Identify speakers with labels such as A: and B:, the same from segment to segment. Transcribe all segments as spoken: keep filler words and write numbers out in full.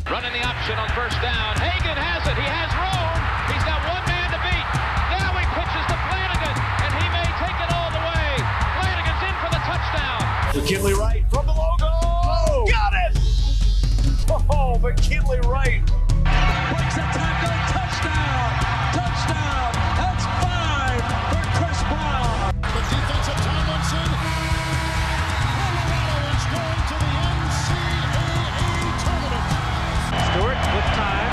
A: Running the option on first down. Hagan has it. He has room. He's got one man to beat. Now he pitches to Flanagan, and he may take it all the way. Flanagan's in for the touchdown.
B: McKinley Wright from the logo. Oh, got it! Oh, McKinley Wright.
C: Breaks a tackle. Touchdown. Touchdown. That's five for Chris Brown.
D: The defensive Tomlinson. Colorado is going to the N C double A tournament.
C: Stewart with time.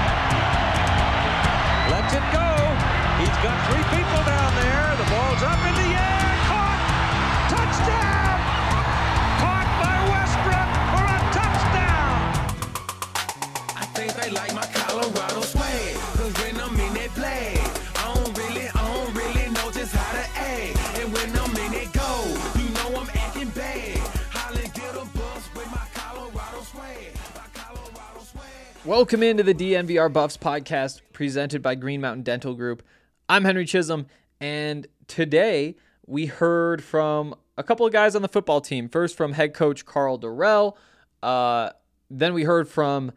C: Lets it go. He's got three people down there. The ball's up in the air. Caught. Touchdown. Caught by Westbrook for a touchdown.
E: I think they like my Colorado swag. Cause when I'm in that play, I don't really, I don't really know just how to act. And when I'm in it go, you know I'm acting bad. Holly get a bus with my Colorado swag. My Colorado swag.
F: Welcome into the D N V R Buffs podcast presented by Green Mountain Dental Group. I'm Henry Chisholm, and today we heard from a couple of guys on the football team. First from head coach Karl Dorrell. Uh, then we heard from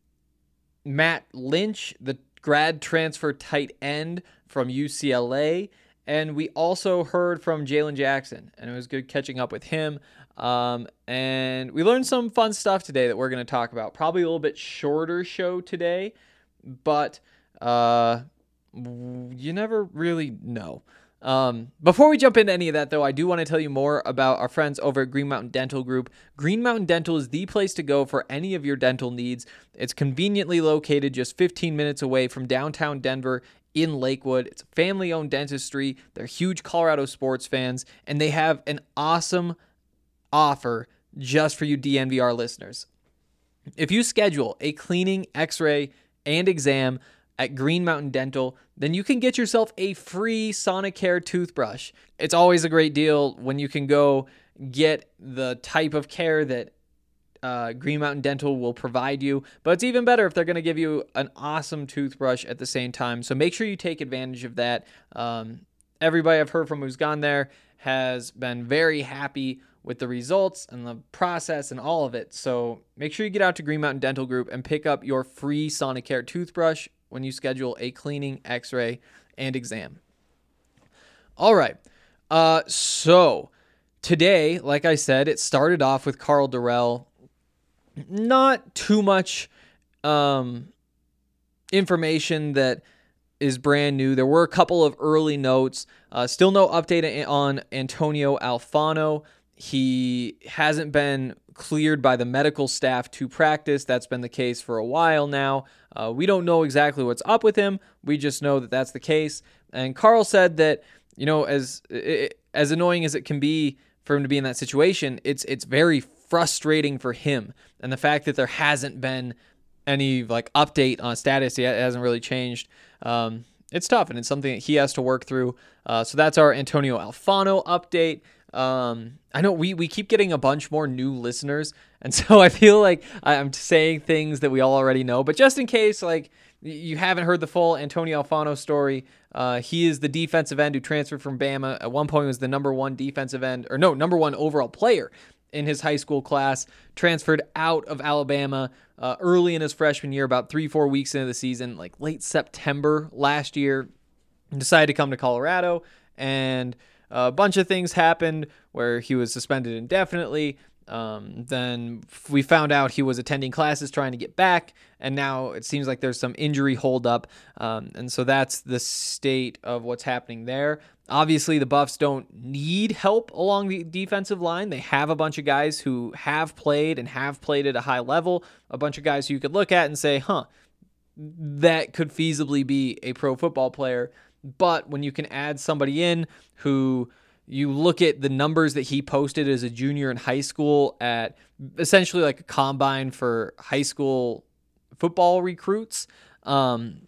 F: Matt Lynch, the grad transfer tight end from U C L A. And we also heard from Jalen Jackson, and it was good catching up with him. Um, and we learned some fun stuff today that we're going to talk about. Probably a little bit shorter show today, but uh, you never really know. Um, before we jump into any of that, though, I do want to tell you more about our friends over at Green Mountain Dental Group. Green Mountain Dental is the place to go for any of your dental needs. It's conveniently located just fifteen minutes away from downtown Denver in Lakewood. It's family-owned dentistry. They're huge Colorado sports fans, and they have an awesome offer just for you D N V R listeners. If you schedule a cleaning, x-ray, and exam at Green Mountain Dental, then you can get yourself a free Sonicare toothbrush. It's always a great deal when you can go get the type of care that uh, Green Mountain Dental will provide you, but it's even better if they're going to give you an awesome toothbrush at the same time. So make sure you take advantage of that. Um, everybody I've heard from who's gone there has been very happy with the results and the process and all of it. So make sure you get out to Green Mountain Dental Group and pick up your free Sonicare toothbrush when you schedule a cleaning, x-ray, and exam. All right. Uh, so today, like I said, it started off with Karl Dorrell. Not too much um, information that is brand new. There were a couple of early notes. Uh, still no update on Antonio Alfano. He hasn't been cleared by the medical staff to practice. That's been the case for a while now. Uh, we don't know exactly what's up with him. We just know that that's the case. And Karl said that, you know, as as annoying as it can be for him to be in that situation, it's it's very frustrating for him. And the fact that there hasn't been any like update on status yet, it hasn't really changed. Um, it's tough, and it's something that he has to work through. Uh, so that's our Antonio Alfano update. Um, I know we, we keep getting a bunch more new listeners, and so I feel like I'm saying things that we all already know, but just in case, like, you haven't heard the full Antonio Alfano story, uh, he is the defensive end who transferred from Bama. At one point was the number one defensive end, or no, number one overall player in his high school class, transferred out of Alabama uh, early in his freshman year, about three, four weeks into the season, like late September last year, and decided to come to Colorado, and a bunch of things happened where he was suspended indefinitely. Um, then we found out he was attending classes trying to get back, and now it seems like there's some injury holdup. Um, and so that's the state of what's happening there. Obviously, the Buffs don't need help along the defensive line. They have a bunch of guys who have played and have played at a high level, a bunch of guys who you could look at and say, huh, that could feasibly be a pro football player. But when you can add somebody in who you look at the numbers that he posted as a junior in high school at essentially like a combine for high school football recruits, um,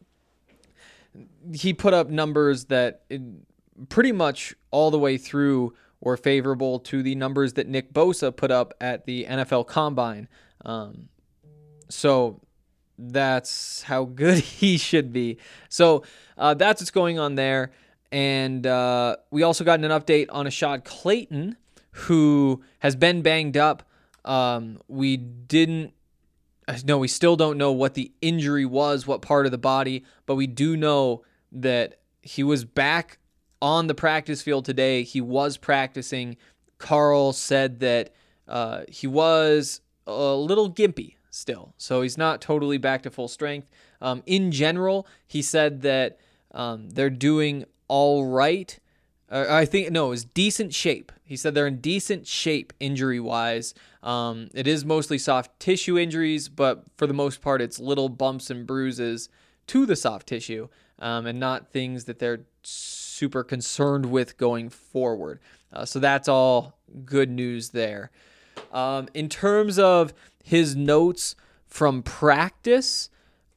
F: he put up numbers that it, pretty much all the way through were favorable to the numbers that Nick Bosa put up at the N F L Combine. Um, so that's how good he should be. So uh, that's what's going on there. And uh, we also got an update on Ashad Clayton, who has been banged up. Um, we didn't no, we still don't know what the injury was, what part of the body, but we do know that he was back on the practice field today. He was practicing. Carl said that uh, he was a little gimpy still, so he's not totally back to full strength. Um, in general, he said that um, they're doing all right. Uh, I think, no, it was decent shape. He said they're in decent shape injury-wise. Um, it is mostly soft tissue injuries, but for the most part, it's little bumps and bruises to the soft tissue, um, and not things that they're super concerned with going forward. Uh, so that's all good news there. Um, in terms of his notes from practice,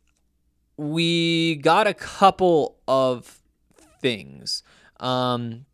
F: we got a couple of things. Um,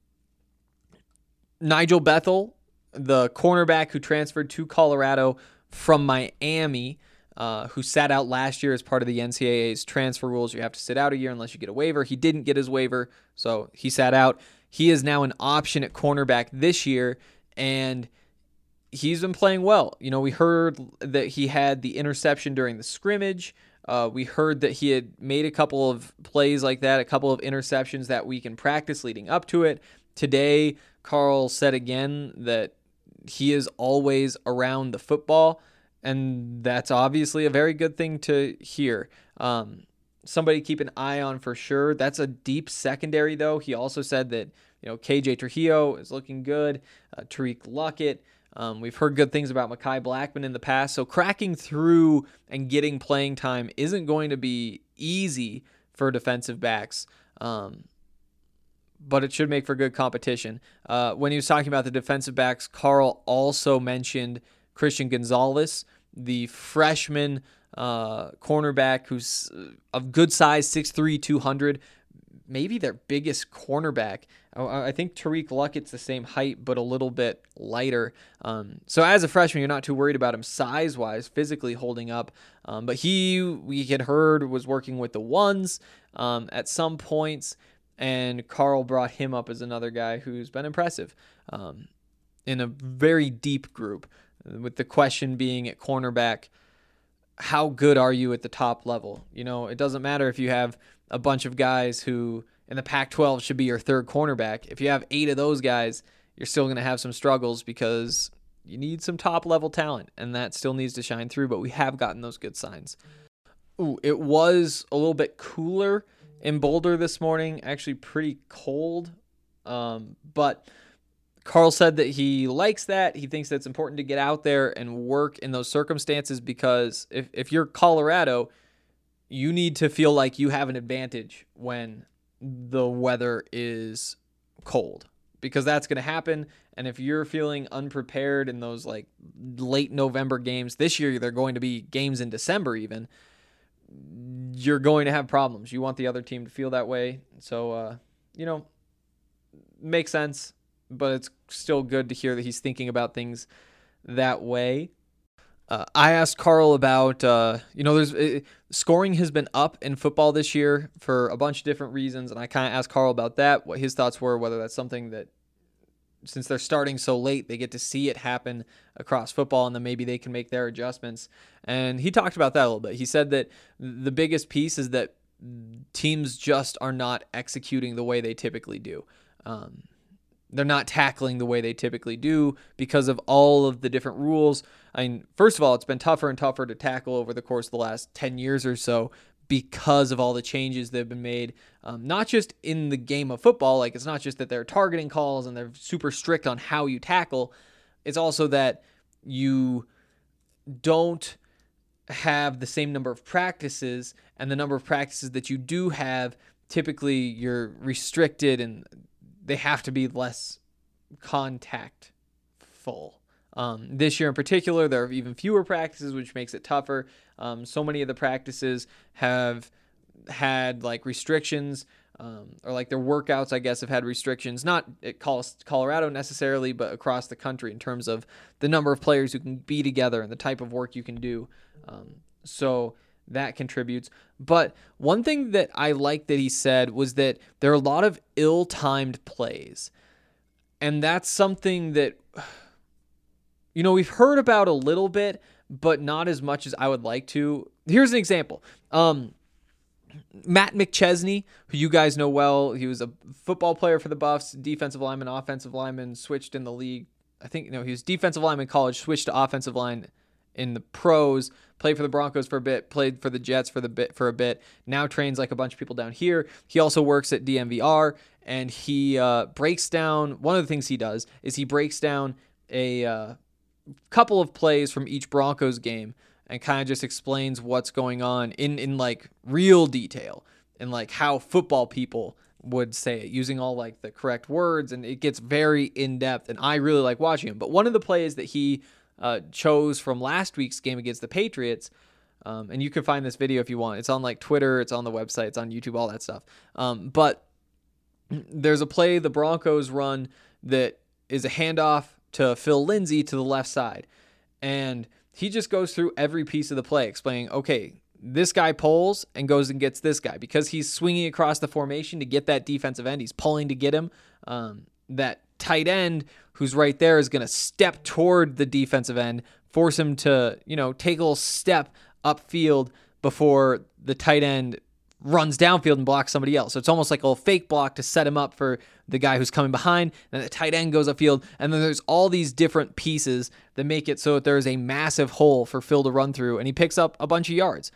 F: Nigel Bethel, the cornerback who transferred to Colorado from Miami, uh, who sat out last year as part of the N C double A's transfer rules. You have to sit out a year unless you get a waiver. He didn't get his waiver, so he sat out. He is now an option at cornerback this year, and he's been playing well. You know, we heard that he had the interception during the scrimmage. Uh, we heard that he had made a couple of plays like that, a couple of interceptions that week in practice leading up to it. Today, Carl said again that he is always around the football, and that's obviously a very good thing to hear. Um, somebody to keep an eye on for sure. That's a deep secondary, though. He also said that, you know, K J Trujillo is looking good, uh, Tariq Luckett. Um, we've heard good things about Mekhi Blackman in the past, so cracking through and getting playing time isn't going to be easy for defensive backs, um, but it should make for good competition. Uh, when he was talking about the defensive backs, Carl also mentioned Christian Gonzalez, the freshman uh, cornerback who's of good size, six three, two hundred, maybe their biggest cornerback. I think Tariq Luckett's the same height, but a little bit lighter. Um, so as a freshman, you're not too worried about him size-wise, physically holding up. Um, but he, we had heard, was working with the ones um, at some points, and Carl brought him up as another guy who's been impressive um, in a very deep group, with the question being at cornerback, how good are you at the top level? You know, it doesn't matter if you have a bunch of guys who in the Pac twelve should be your third cornerback. If you have eight of those guys, you're still going to have some struggles because you need some top-level talent, and that still needs to shine through, but we have gotten those good signs. Ooh, it was a little bit cooler in Boulder this morning, actually pretty cold, um, but Carl said that he likes that. He thinks that it's important to get out there and work in those circumstances because if, if you're Colorado, you need to feel like you have an advantage when the weather is cold, because that's going to happen. And if you're feeling unprepared in those like late November games, this year they're going to be games in December even, you're going to have problems. You want the other team to feel that way. So, uh, you know, makes sense, but it's still good to hear that he's thinking about things that way. Uh, I asked Carl about, uh, you know, there's uh, scoring has been up in football this year for a bunch of different reasons, and I kind of asked Carl about that, what his thoughts were, whether that's something that, since they're starting so late, they get to see it happen across football, and then maybe they can make their adjustments. And he talked about that a little bit. He said that the biggest piece is that teams just are not executing the way they typically do. Um, They're not tackling the way they typically do because of all of the different rules. I mean, first of all, it's been tougher and tougher to tackle over the course of the last ten years or so because of all the changes that have been made, um, not just in the game of football. Like, it's not just that they're targeting calls and they're super strict on how you tackle. It's also that you don't have the same number of practices, and the number of practices that you do have, typically you're restricted and they have to be less contactful. Um, this year in particular, there are even fewer practices, which makes it tougher. Um, so many of the practices have had like restrictions, um, or like their workouts, I guess, have had restrictions, not at Colorado necessarily, but across the country in terms of the number of players who can be together and the type of work you can do. Um, so that contributes. But one thing that I liked that he said was that there are a lot of ill-timed plays. And that's something that, you know, we've heard about a little bit, but not as much as I would like to. Here's an example. Um, Matt McChesney, who you guys know well, he was a football player for the Buffs, defensive lineman, offensive lineman, switched in the league. I think, no, he was defensive lineman in college, switched to offensive line in the pros, played for the Broncos for a bit, played for the Jets for the bit for a bit, now trains like a bunch of people down here. He also works at D N V R, and he uh, breaks down, one of the things he does is he breaks down a uh, couple of plays from each Broncos game and kind of just explains what's going on in, in like real detail and like how football people would say it, using all like the correct words, and it gets very in-depth, and I really like watching him. But one of the plays that he uh, chose from last week's game against the Patriots, um, and you can find this video if you want. It's on like Twitter, it's on the website, it's on YouTube, all that stuff. Um, but there's a play the Broncos run that is a handoff to Phil Lindsay to the left side, and he just goes through every piece of the play explaining, okay, this guy pulls and goes and gets this guy because he's swinging across the formation to get that defensive end. He's pulling to get him. Um, that tight end who's right there is going to step toward the defensive end, force him to, you know, take a little step upfield before the tight end runs downfield and blocks somebody else. So it's almost like a little fake block to set him up for the guy who's coming behind. Then the tight end goes upfield. And then there's all these different pieces that make it so that there's a massive hole for Phil to run through, and he picks up a bunch of yards.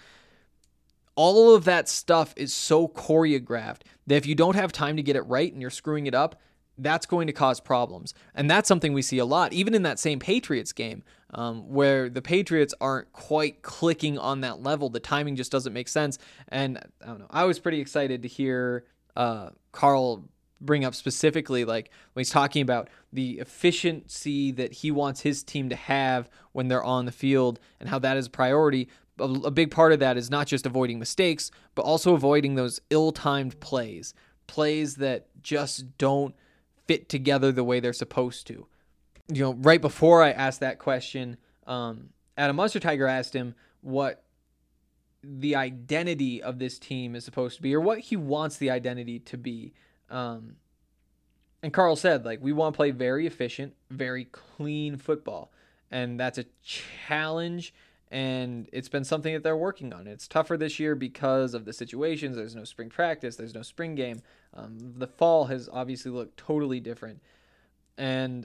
F: All of that stuff is so choreographed that if you don't have time to get it right and you're screwing it up, that's going to cause problems. And that's something we see a lot, even in that same Patriots game, um, where the Patriots aren't quite clicking on that level. The timing just doesn't make sense. And I don't know, I was pretty excited to hear uh, Carl bring up specifically, like when he's talking about the efficiency that he wants his team to have when they're on the field and how that is a priority. A, a big part of that is not just avoiding mistakes, but also avoiding those ill-timed plays, plays that just don't fit together the way they're supposed to. You know, right before I asked that question, um, Adam Munsterteiger asked him what the identity of this team is supposed to be, or what he wants the identity to be. Um, and Carl said, like, we want to play very efficient, very clean football. And that's a challenge, and it's been something that they're working on. It's tougher this year because of the situations. There's no spring practice. There's no spring game. Um, the fall has obviously looked totally different. And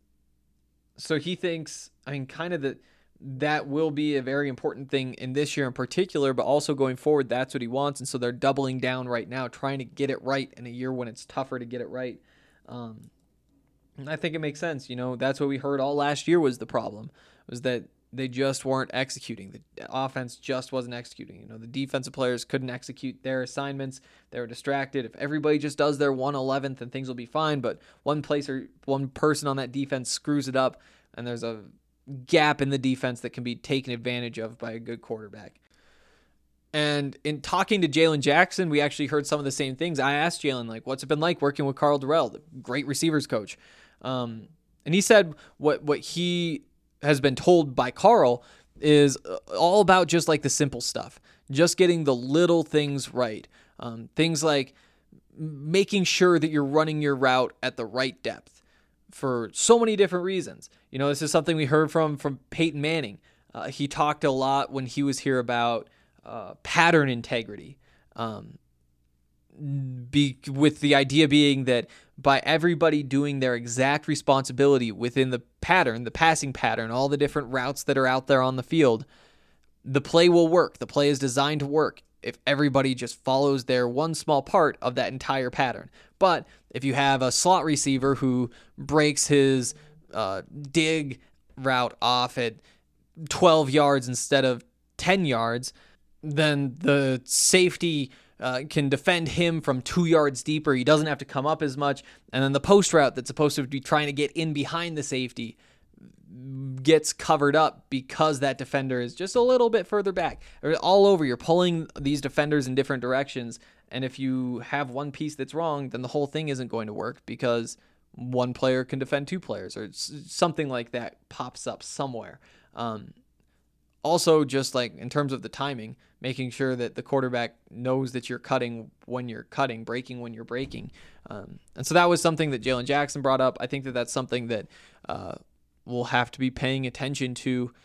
F: so he thinks, I mean, kind of that that will be a very important thing in this year in particular, but also going forward, that's what he wants. And so they're doubling down right now, trying to get it right in a year when it's tougher to get it right. Um, and I think it makes sense. You know, that's what we heard all last year was the problem, was that they just weren't executing. The offense just wasn't executing. You know, the defensive players couldn't execute their assignments. They were distracted. If everybody just does their one eleventh, then things will be fine. But one place or one person on that defense screws it up, and there's a gap in the defense that can be taken advantage of by a good quarterback. And in talking to Jalen Jackson, we actually heard some of the same things. I asked Jalen, like, what's it been like working with Carl Durrell, the great receivers coach? Um, and he said what what he has been told by Carl is all about just like the simple stuff, just getting the little things right. Um, things like making sure that you're running your route at the right depth for so many different reasons. You know, this is something we heard from, from Peyton Manning. Uh, he talked a lot when he was here about uh, pattern integrity. Um, be, with the idea being that by everybody doing their exact responsibility within the pattern, the passing pattern, all the different routes that are out there on the field, the play will work. The play is designed to work if everybody just follows their one small part of that entire pattern. But if you have a slot receiver who breaks his uh, dig route off at twelve yards instead of ten yards, then the safety Uh, can defend him from two yards deeper. He doesn't have to come up as much. And then the post route that's supposed to be trying to get in behind the safety gets covered up because that defender is just a little bit further back. All over, you're pulling these defenders in different directions. And if you have one piece that's wrong, then the whole thing isn't going to work because one player can defend two players or something like that pops up somewhere. Um, Also, just like in terms of the timing, making sure that the quarterback knows that you're cutting when you're cutting, breaking when you're breaking. Um, and so that was something that Jalen Jackson brought up. I think that that's something that uh, we'll have to be paying attention to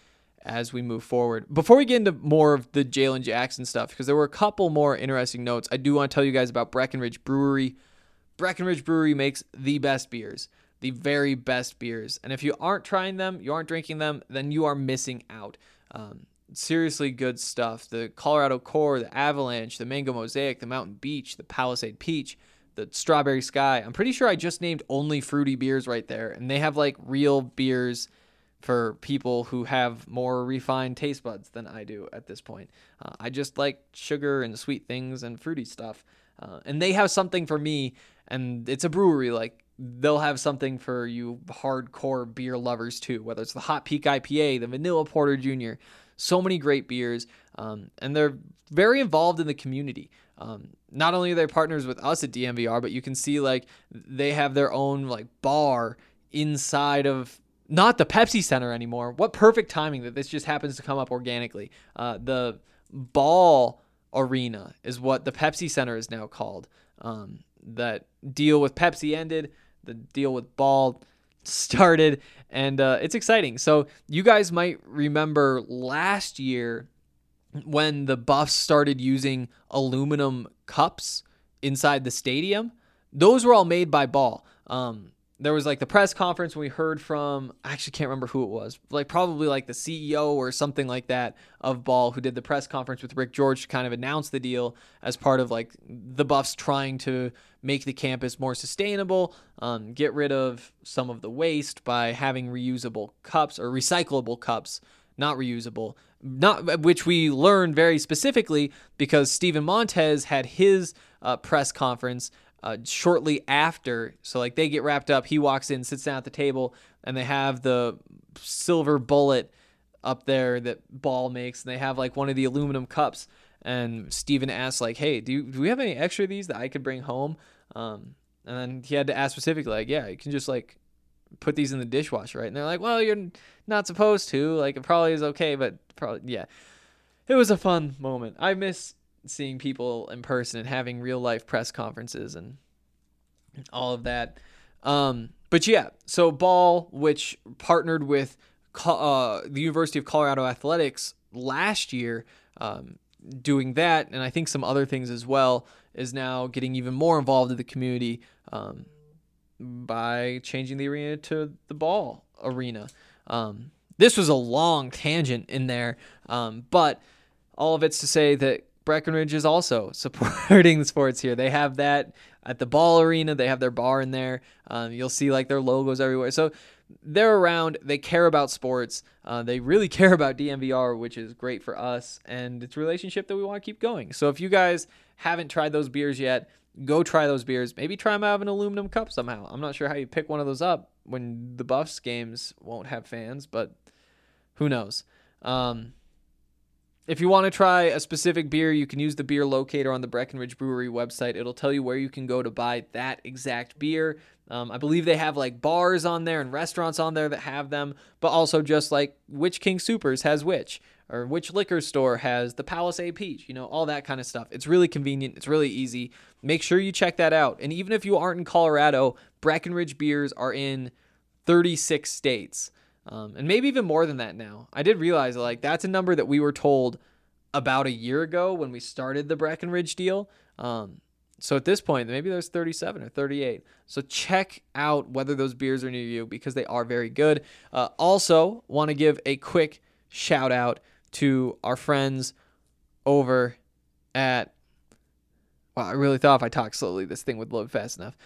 F: as we move forward. Before we get into more of the Jalen Jackson stuff, because there were a couple more interesting notes, I do want to tell you guys about Breckenridge Brewery. Breckenridge Brewery makes the best beers, the very best beers. And if you aren't trying them, you aren't drinking them, then you are missing out. Um, seriously good stuff. The Colorado Core, the Avalanche, the Mango Mosaic, the Mountain Beach, the Palisade Peach, the Strawberry Sky. I'm pretty sure I just named only fruity beers right there. And they have like real beers for people who have more refined taste buds than I do at this point. Uh, I just like sugar and sweet things and fruity stuff. Uh, and they have something for me, and it's a brewery. Like, they'll have something for you hardcore beer lovers too, whether it's the Hot Peak I P A, the Vanilla Porter Junior So many great beers, um, and they're very involved in the community. Um, not only are they partners with us at D N V R, but you can see like they have their own like bar inside of not the Pepsi Center anymore. What perfect timing that this just happens to come up organically. Uh, the Ball Arena is what the Pepsi Center is now called. Um, that deal with Pepsi ended. The deal with Ball started, and uh, it's exciting. So you guys might remember last year when the Buffs started using aluminum cups inside the stadium. Those were all made by Ball. Um, there was like the press conference when we heard from, I actually can't remember who it was, like probably like the C E O or something like that of Ball, who did the press conference with Rick George to kind of announce the deal as part of like the Buffs trying to make the campus more sustainable, um, get rid of some of the waste by having reusable cups or recyclable cups, not reusable, not which we learned very specifically because Steven Montez had his uh, press conference Uh, shortly after. So like they get wrapped up, he walks in, sits down at the table, and they have the silver bullet up there that Ball makes, and they have like one of the aluminum cups. And Steven asks like, hey, do, you, do we have any extra of these that I could bring home? Um, and then he had to ask specifically, like, yeah, you can just like put these in the dishwasher, right? And they're like, well, you're not supposed to. Like, it probably is okay, but probably, yeah. It was a fun moment. I miss seeing people in person and having real life press conferences and all of that. Um, but yeah, so Ball, which partnered with uh, the University of Colorado Athletics last year, um, doing that, and I think some other things as well, is now getting even more involved in the community um, by changing the arena to the Ball Arena. Um, this was a long tangent in there, um, but all of it's to say that Breckenridge is also supporting the sports here. They have that at the Ball Arena. They have their bar in there. Um, you'll see like their logos everywhere. So they're around. They care about sports. Uh, they really care about D N V R, which is great for us. And it's a relationship that we want to keep going. So if you guys haven't tried those beers yet, go try those beers. Maybe try them out of an aluminum cup somehow. I'm not sure how you pick one of those up when the Buffs games won't have fans, but who knows? Um, If you want to try a specific beer, you can use the beer locator on the Breckenridge Brewery website. It'll tell you where you can go to buy that exact beer. Um, I believe they have like bars on there and restaurants on there that have them, but also just like which King Soopers has which, or which liquor store has the Palisade Peach, you know, all that kind of stuff. It's really convenient. It's really easy. Make sure you check that out. And even if you aren't in Colorado, Breckenridge beers are in thirty-six states. Um, and maybe even more than that now. I did realize like that's a number that we were told about a year ago when we started the Breckenridge deal. Um, so at this point, maybe there's thirty-seven or thirty-eight. So check out whether those beers are near you because they are very good. Uh, also, want to give a quick shout out to our friends over at, wow, I really thought if I talked slowly, this thing would load fast enough.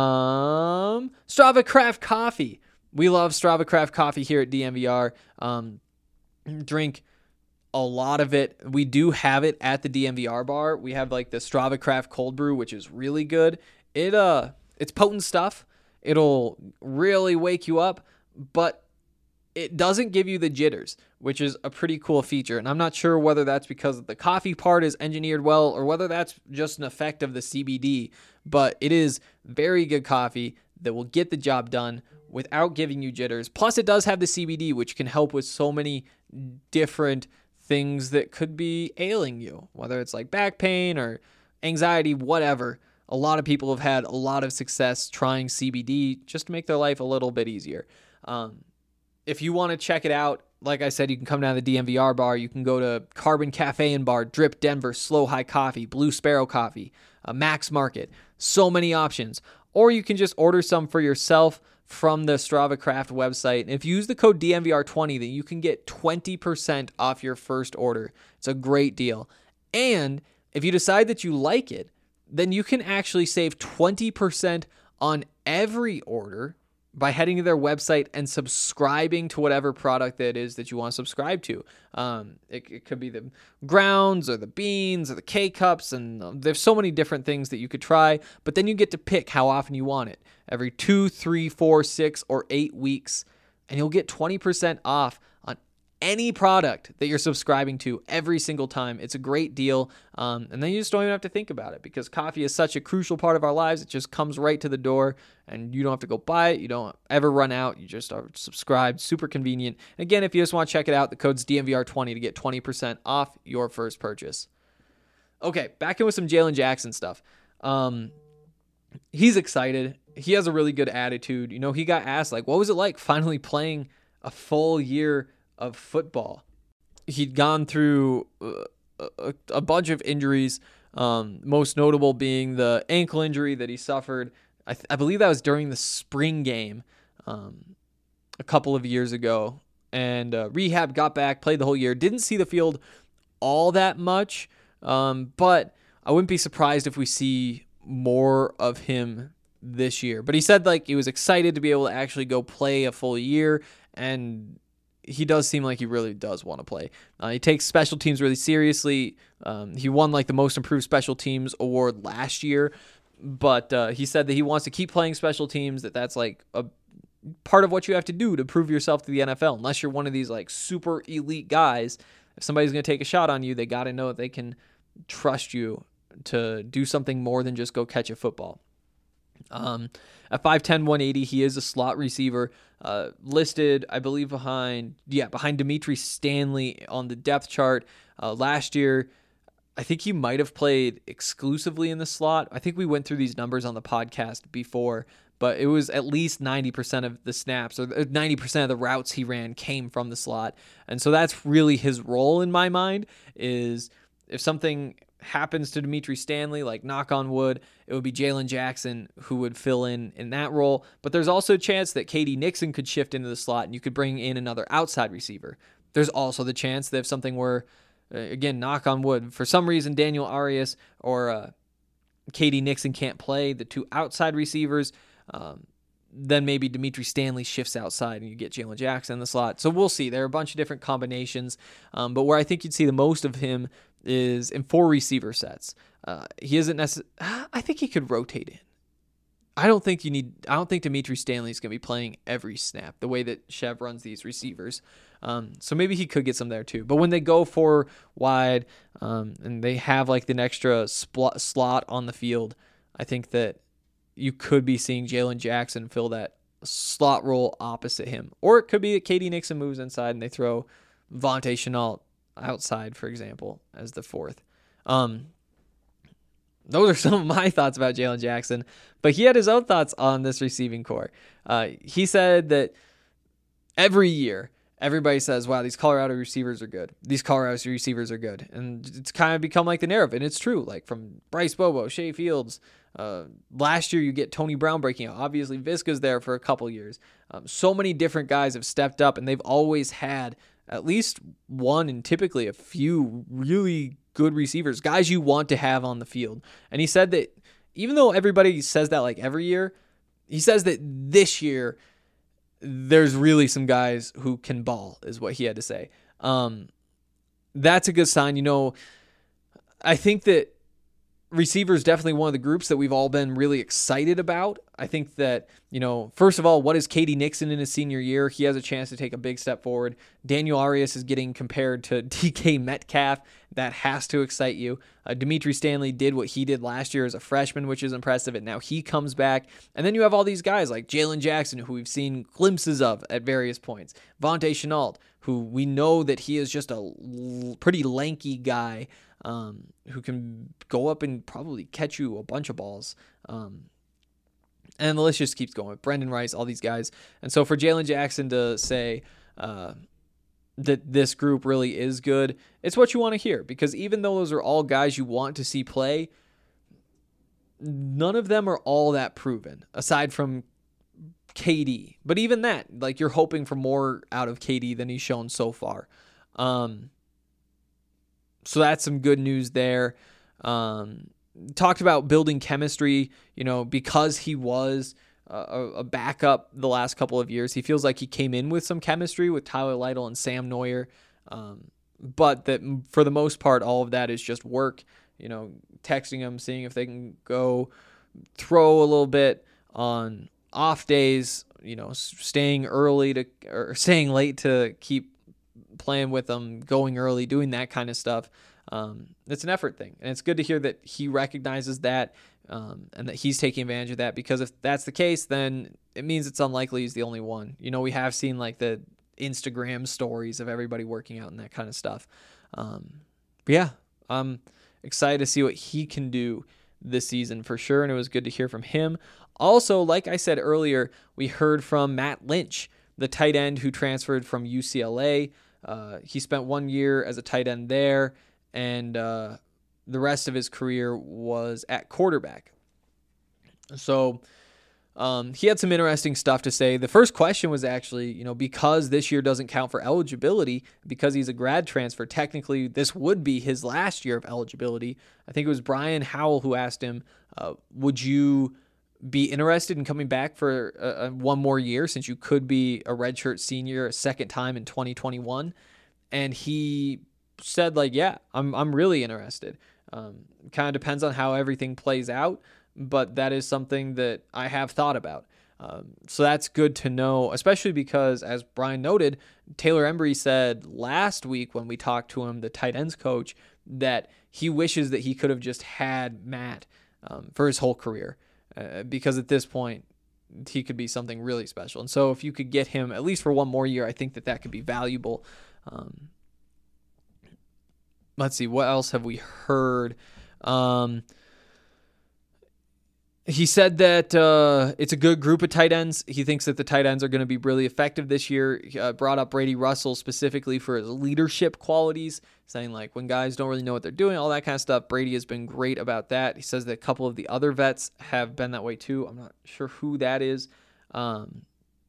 F: Um, Strava Craft Coffee. We love Strava Craft Coffee here at D N V R. Um, drink a lot of it. We do have it at the D N V R bar. We have like the Strava Craft Cold Brew, which is really good. It uh, it's potent stuff. It'll really wake you up, but it doesn't give you the jitters, which is a pretty cool feature. And I'm not sure whether that's because the coffee part is engineered well or whether that's just an effect of the C B D, but it is very good coffee that will get the job done without giving you jitters. Plus, it does have the C B D, which can help with so many different things that could be ailing you, whether it's like back pain or anxiety, whatever. A lot of people have had a lot of success trying C B D just to make their life a little bit easier. Um, if you want to check it out, like I said, you can come down to the D N V R bar. You can go to Carbon Cafe and Bar, Drip Denver, Slow High Coffee, Blue Sparrow Coffee, uh, Max Market. So many options. Or you can just order some for yourself from the Strava Craft website. And if you use the code D N V R twenty, then you can get twenty percent off your first order. It's a great deal. And if you decide that you like it, then you can actually save twenty percent on every order by heading to their website and subscribing to whatever product that is that you want to subscribe to. Um, it, it could be the grounds or the beans or the K-Cups, and um, there's so many different things that you could try, but then you get to pick how often you want it. Every two, three, four, six, or eight weeks, and you'll get twenty percent off on any product that you're subscribing to every single time. It's a great deal. Um, and then you just don't even have to think about it, because coffee is such a crucial part of our lives. It just comes right to the door, and you don't have to go buy it. You don't ever run out. You just are subscribed. Super convenient. And again, if you just want to check it out, the code's D N V R twenty to get twenty percent off your first purchase. Okay, back in with some Jalen Jackson stuff. Um, he's excited. He has a really good attitude. You know, he got asked, like, what was it like finally playing a full year of football? He'd gone through uh, a, a bunch of injuries, um, most notable being the ankle injury that he suffered. I, th- I believe that was during the spring game um, a couple of years ago. And uh, rehab, got back, played the whole year. Didn't see the field all that much, um, but I wouldn't be surprised if we see more of him this year. But he said like he was excited to be able to actually go play a full year, and he does seem like he really does want to play. Uh, he takes special teams really seriously. Um, he won like the most improved special teams award last year, but uh, he said that he wants to keep playing special teams, that that's like a part of what you have to do to prove yourself to the N F L. Unless you're one of these like super elite guys, if somebody's going to take a shot on you, they got to know that they can trust you to do something more than just go catch a football. Um, at five ten, one eighty, he is a slot receiver, uh, listed, I believe, behind, yeah, behind Dimitri Stanley on the depth chart. Uh, last year, I think he might have played exclusively in the slot. I think we went through these numbers on the podcast before, but it was at least ninety percent of the snaps, or ninety percent of the routes he ran came from the slot. And so that's really his role in my mind, is if something happens to Dimitri Stanley, like knock on wood, it would be Jalen Jackson who would fill in in that role. But there's also a chance that K D Nixon could shift into the slot and you could bring in another outside receiver. There's also the chance that if something were, uh, again, knock on wood, for some reason Daniel Arias or uh, K D Nixon can't play the two outside receivers, um, then maybe Dimitri Stanley shifts outside and you get Jalen Jackson in the slot. So we'll see. There are a bunch of different combinations, um, but where I think you'd see the most of him is in four receiver sets. Uh, he isn't necessarily, I think he could rotate in. I don't think you need, I don't think Dimitri Stanley is going to be playing every snap the way that Chev runs these receivers. Um, so maybe he could get some there too. But when they go four wide um, and they have like an extra spl- slot on the field, I think that you could be seeing Jalen Jackson fill that slot role opposite him. Or it could be that K D Nixon moves inside and they throw Vontae Shenault outside, for example, as the fourth. Um, those are some of my thoughts about Jalen Jackson, but he had his own thoughts on this receiving core. Uh, he said that every year, everybody says, wow, these Colorado receivers are good. These Colorado receivers are good. And it's kind of become like the narrative, and it's true. Like from Bryce Bobo, Shea Fields, uh, last year you get Tony Brown breaking out. Obviously, Visca's there for a couple years. Um, so many different guys have stepped up, and they've always had at least one and typically a few really good receivers, guys you want to have on the field. And he said that even though everybody says that like every year, he says that this year there's really some guys who can ball, is what he had to say. Um, that's a good sign. You know, I think that receiver is definitely one of the groups that we've all been really excited about. I think that, you know, first of all, what is K D Nixon in his senior year? He has a chance to take a big step forward. Daniel Arias is getting compared to D K Metcalf. That has to excite you. Uh, Dimitri Stanley did what he did last year as a freshman, which is impressive, and now he comes back. And then you have all these guys like Jalen Jackson, who we've seen glimpses of at various points. Vontae Shenault, who we know that he is just a l- pretty lanky guy, Um, who can go up and probably catch you a bunch of balls. Um, and the list just keeps going. Brendan Rice, all these guys. And so for Jalen Jackson to say, uh, that this group really is good, it's what you want to hear, because even though those are all guys you want to see play, none of them are all that proven, aside from K D. But even that, like, you're hoping for more out of K D than he's shown so far. Um, so that's some good news there. Um, talked about building chemistry, you know, because he was a, a backup the last couple of years. He feels like he came in with some chemistry with Tyler Lytle and Sam Neuer. Um, but that for the most part, all of that is just work, you know, texting them, seeing if they can go throw a little bit on off days, you know, staying early to, or staying late to keep playing with them, going early, doing that kind of stuff. Um, it's an effort thing, and it's good to hear that he recognizes that, um, and that he's taking advantage of that, because if that's the case, then it means it's unlikely he's the only one. You know, we have seen like the Instagram stories of everybody working out and that kind of stuff. Um, but yeah, I'm excited to see what he can do this season for sure, and it was good to hear from him. Also, like I said earlier, we heard from Matt Lynch, the tight end who transferred from U C L A. Uh, he spent one year as a tight end there, and uh, the rest of his career was at quarterback. So um, he had some interesting stuff to say. The first question was actually, you know, because this year doesn't count for eligibility, because he's a grad transfer, technically this would be his last year of eligibility. I think it was Brian Howell who asked him, uh, would you be interested in coming back for uh, one more year, since you could be a redshirt senior a second time in twenty twenty-one? And he said, like, yeah, I'm I'm really interested. Um, kind of depends on how everything plays out, but that is something that I have thought about. Um, so that's good to know, especially because, as Brian noted, Taylor Embry said last week when we talked to him, the tight ends coach, that he wishes that he could have just had Matt um, for his whole career. Uh, because at this point, he could be something really special. And so if you could get him at least for one more year, I think that that could be valuable. Um, let's see, what else have we heard? Um, he said that uh, it's a good group of tight ends. He thinks that the tight ends are going to be really effective this year. He uh, brought up Brady Russell specifically for his leadership qualities, saying like when guys don't really know what they're doing, all that kind of stuff. Brady has been great about that. He says that a couple of the other vets have been that way too. I'm not sure who that is. Um,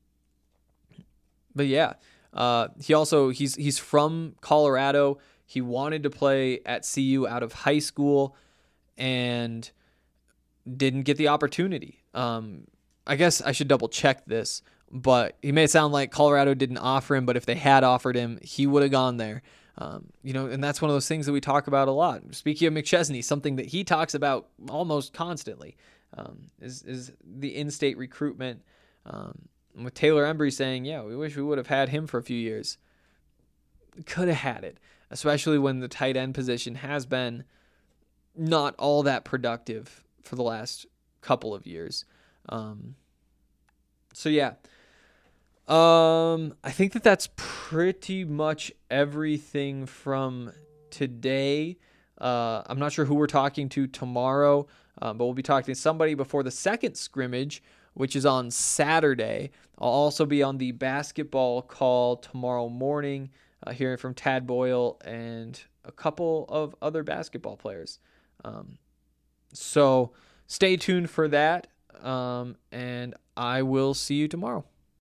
F: but yeah, uh, he also, he's, he's from Colorado. He wanted to play at C U out of high school and didn't get the opportunity. Um, I guess I should double check this, but he made it sound like Colorado didn't offer him, but if they had offered him, he would have gone there. Um, you know, and that's one of those things that we talk about a lot. Speaking of McChesney, something that he talks about almost constantly um, is, is the in-state recruitment. Um, with Taylor Embry saying, yeah, we wish we would have had him for a few years. Could have had it, especially when the tight end position has been not all that productive for the last couple of years. Um, so yeah, um, I think that that's pretty much everything from today. Uh, I'm not sure who we're talking to tomorrow, um, but we'll be talking to somebody before the second scrimmage, which is on Saturday. I'll also be on the basketball call tomorrow morning, uh, hearing from Tad Boyle and a couple of other basketball players. Um, So stay tuned for that, um, and I will see you tomorrow.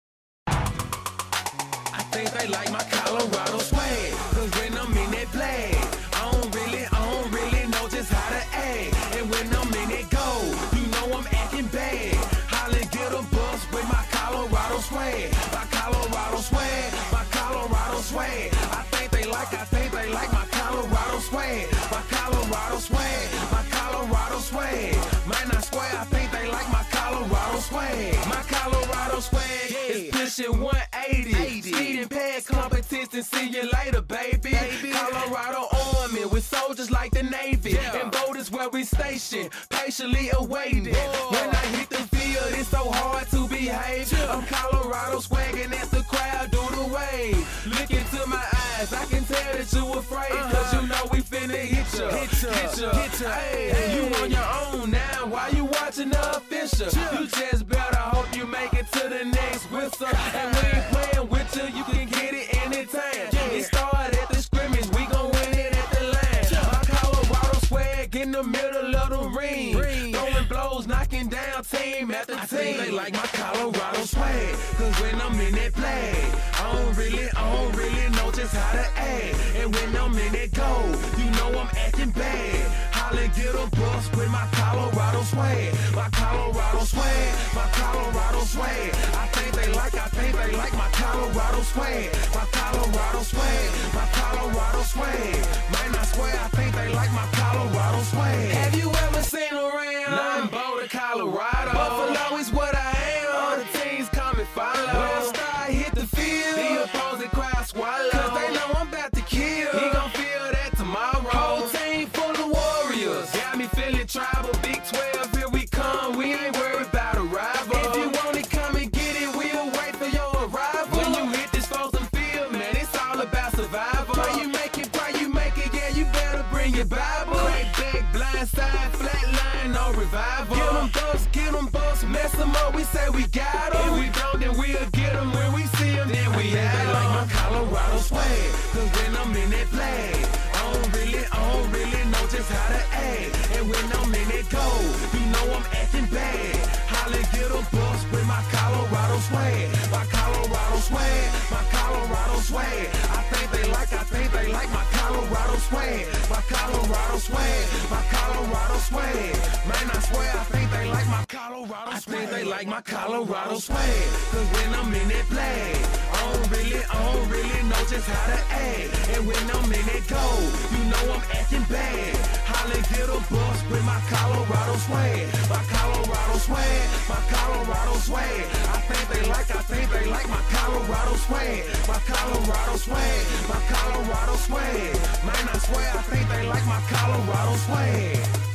E: I think they like my Colorado swag, cause when I'm in that flag, I don't really, I don't really know just how to act. And when I'm in that gold, you know I'm acting bad. Holly get a bus with my Colorado swag, my Colorado swag, my Colorado swag. I think they like, I think they like my Colorado swag, my Colorado swag, my Colorado swag. Man, I swear, I think they like my Colorado swag. My Colorado swag is pushing one eighty. Speeding past competition, see you later, baby. baby. Colorado Army with soldiers like the Navy. Yeah. And voters where we stationed, patiently awaiting. Whoa. When I hit the field, it's so hard to behave. Yeah. I'm Colorado swagging as the crowd do the wave. Look into my eyes, I can tell that you afraid. Uh-huh. Cause you know we finna hit ya. Hit ya, hit ya, hit ya. Hey, hey. You on your own now, why you watching the official? Yeah. You just better hope you make it to the next whistle. And we ain't playing with you, you can get it anytime. Yeah. It's start at the scrimmage, we gon' win it at the line. My Colorado swag in the middle of the ring. Throwing blows, knocking down team after team. I think they like my Colorado swag, cause when I'm in that play, I don't really, I don't really know just how to act. And when I'm in that goal, you know I'm acting bad. Holla, get a bus with my Colorado swag. My Colorado swag, my Colorado swag. I think they like, I think they like my Colorado swag. My Colorado swag, my Colorado swag. Man, I swear, I think they like my Colorado swag. Have you ever seen around? Nah, I'm Boulder, Colorado. Buffalo is what I am. All the teams come and follow. When I start hit the field, the opposing crowd swallow. Cause they know I'm about to kill. He gon' feel that tomorrow. Whole team full of warriors. Got me feeling tribal. Big twelve, here we come. We ain't worried about a rival. If you want it, come and get it. We'll wait for your arrival. When you hit this frozen field, man, it's all about survival. Pray you make it, pray you make it. Yeah, you better bring your Bible. Crack back, blind side, flat line, no revival. Get them thugs, get them busts, mess them up. We say we got them. If we don't, then we'll get them. When we see them, then we have them. They like my Colorado swag, cause when I'm in that play, I don't really, I don't really know just how to act. And when I'm in that goal, you know I'm acting bad. Holla, get a bus with my Colorado swag. My Colorado swag, my Colorado swag. I think they like, I think they like my Colorado swag. My Colorado swag, my Colorado swag. Man, I swear, I think they like my Colorado swag. I think they like my Colorado swag. Cause when I'm in that play, I don't really, I don't really know just how to act. And when I'm in that goal, you know I'm acting bad. Holla, get a bus with my Colorado swag. My Colorado swag, my Colorado swag. I think they like, I think they like my Colorado swag. My Colorado swag, my Colorado swag. Man, I swear, I think they like my Colorado swag.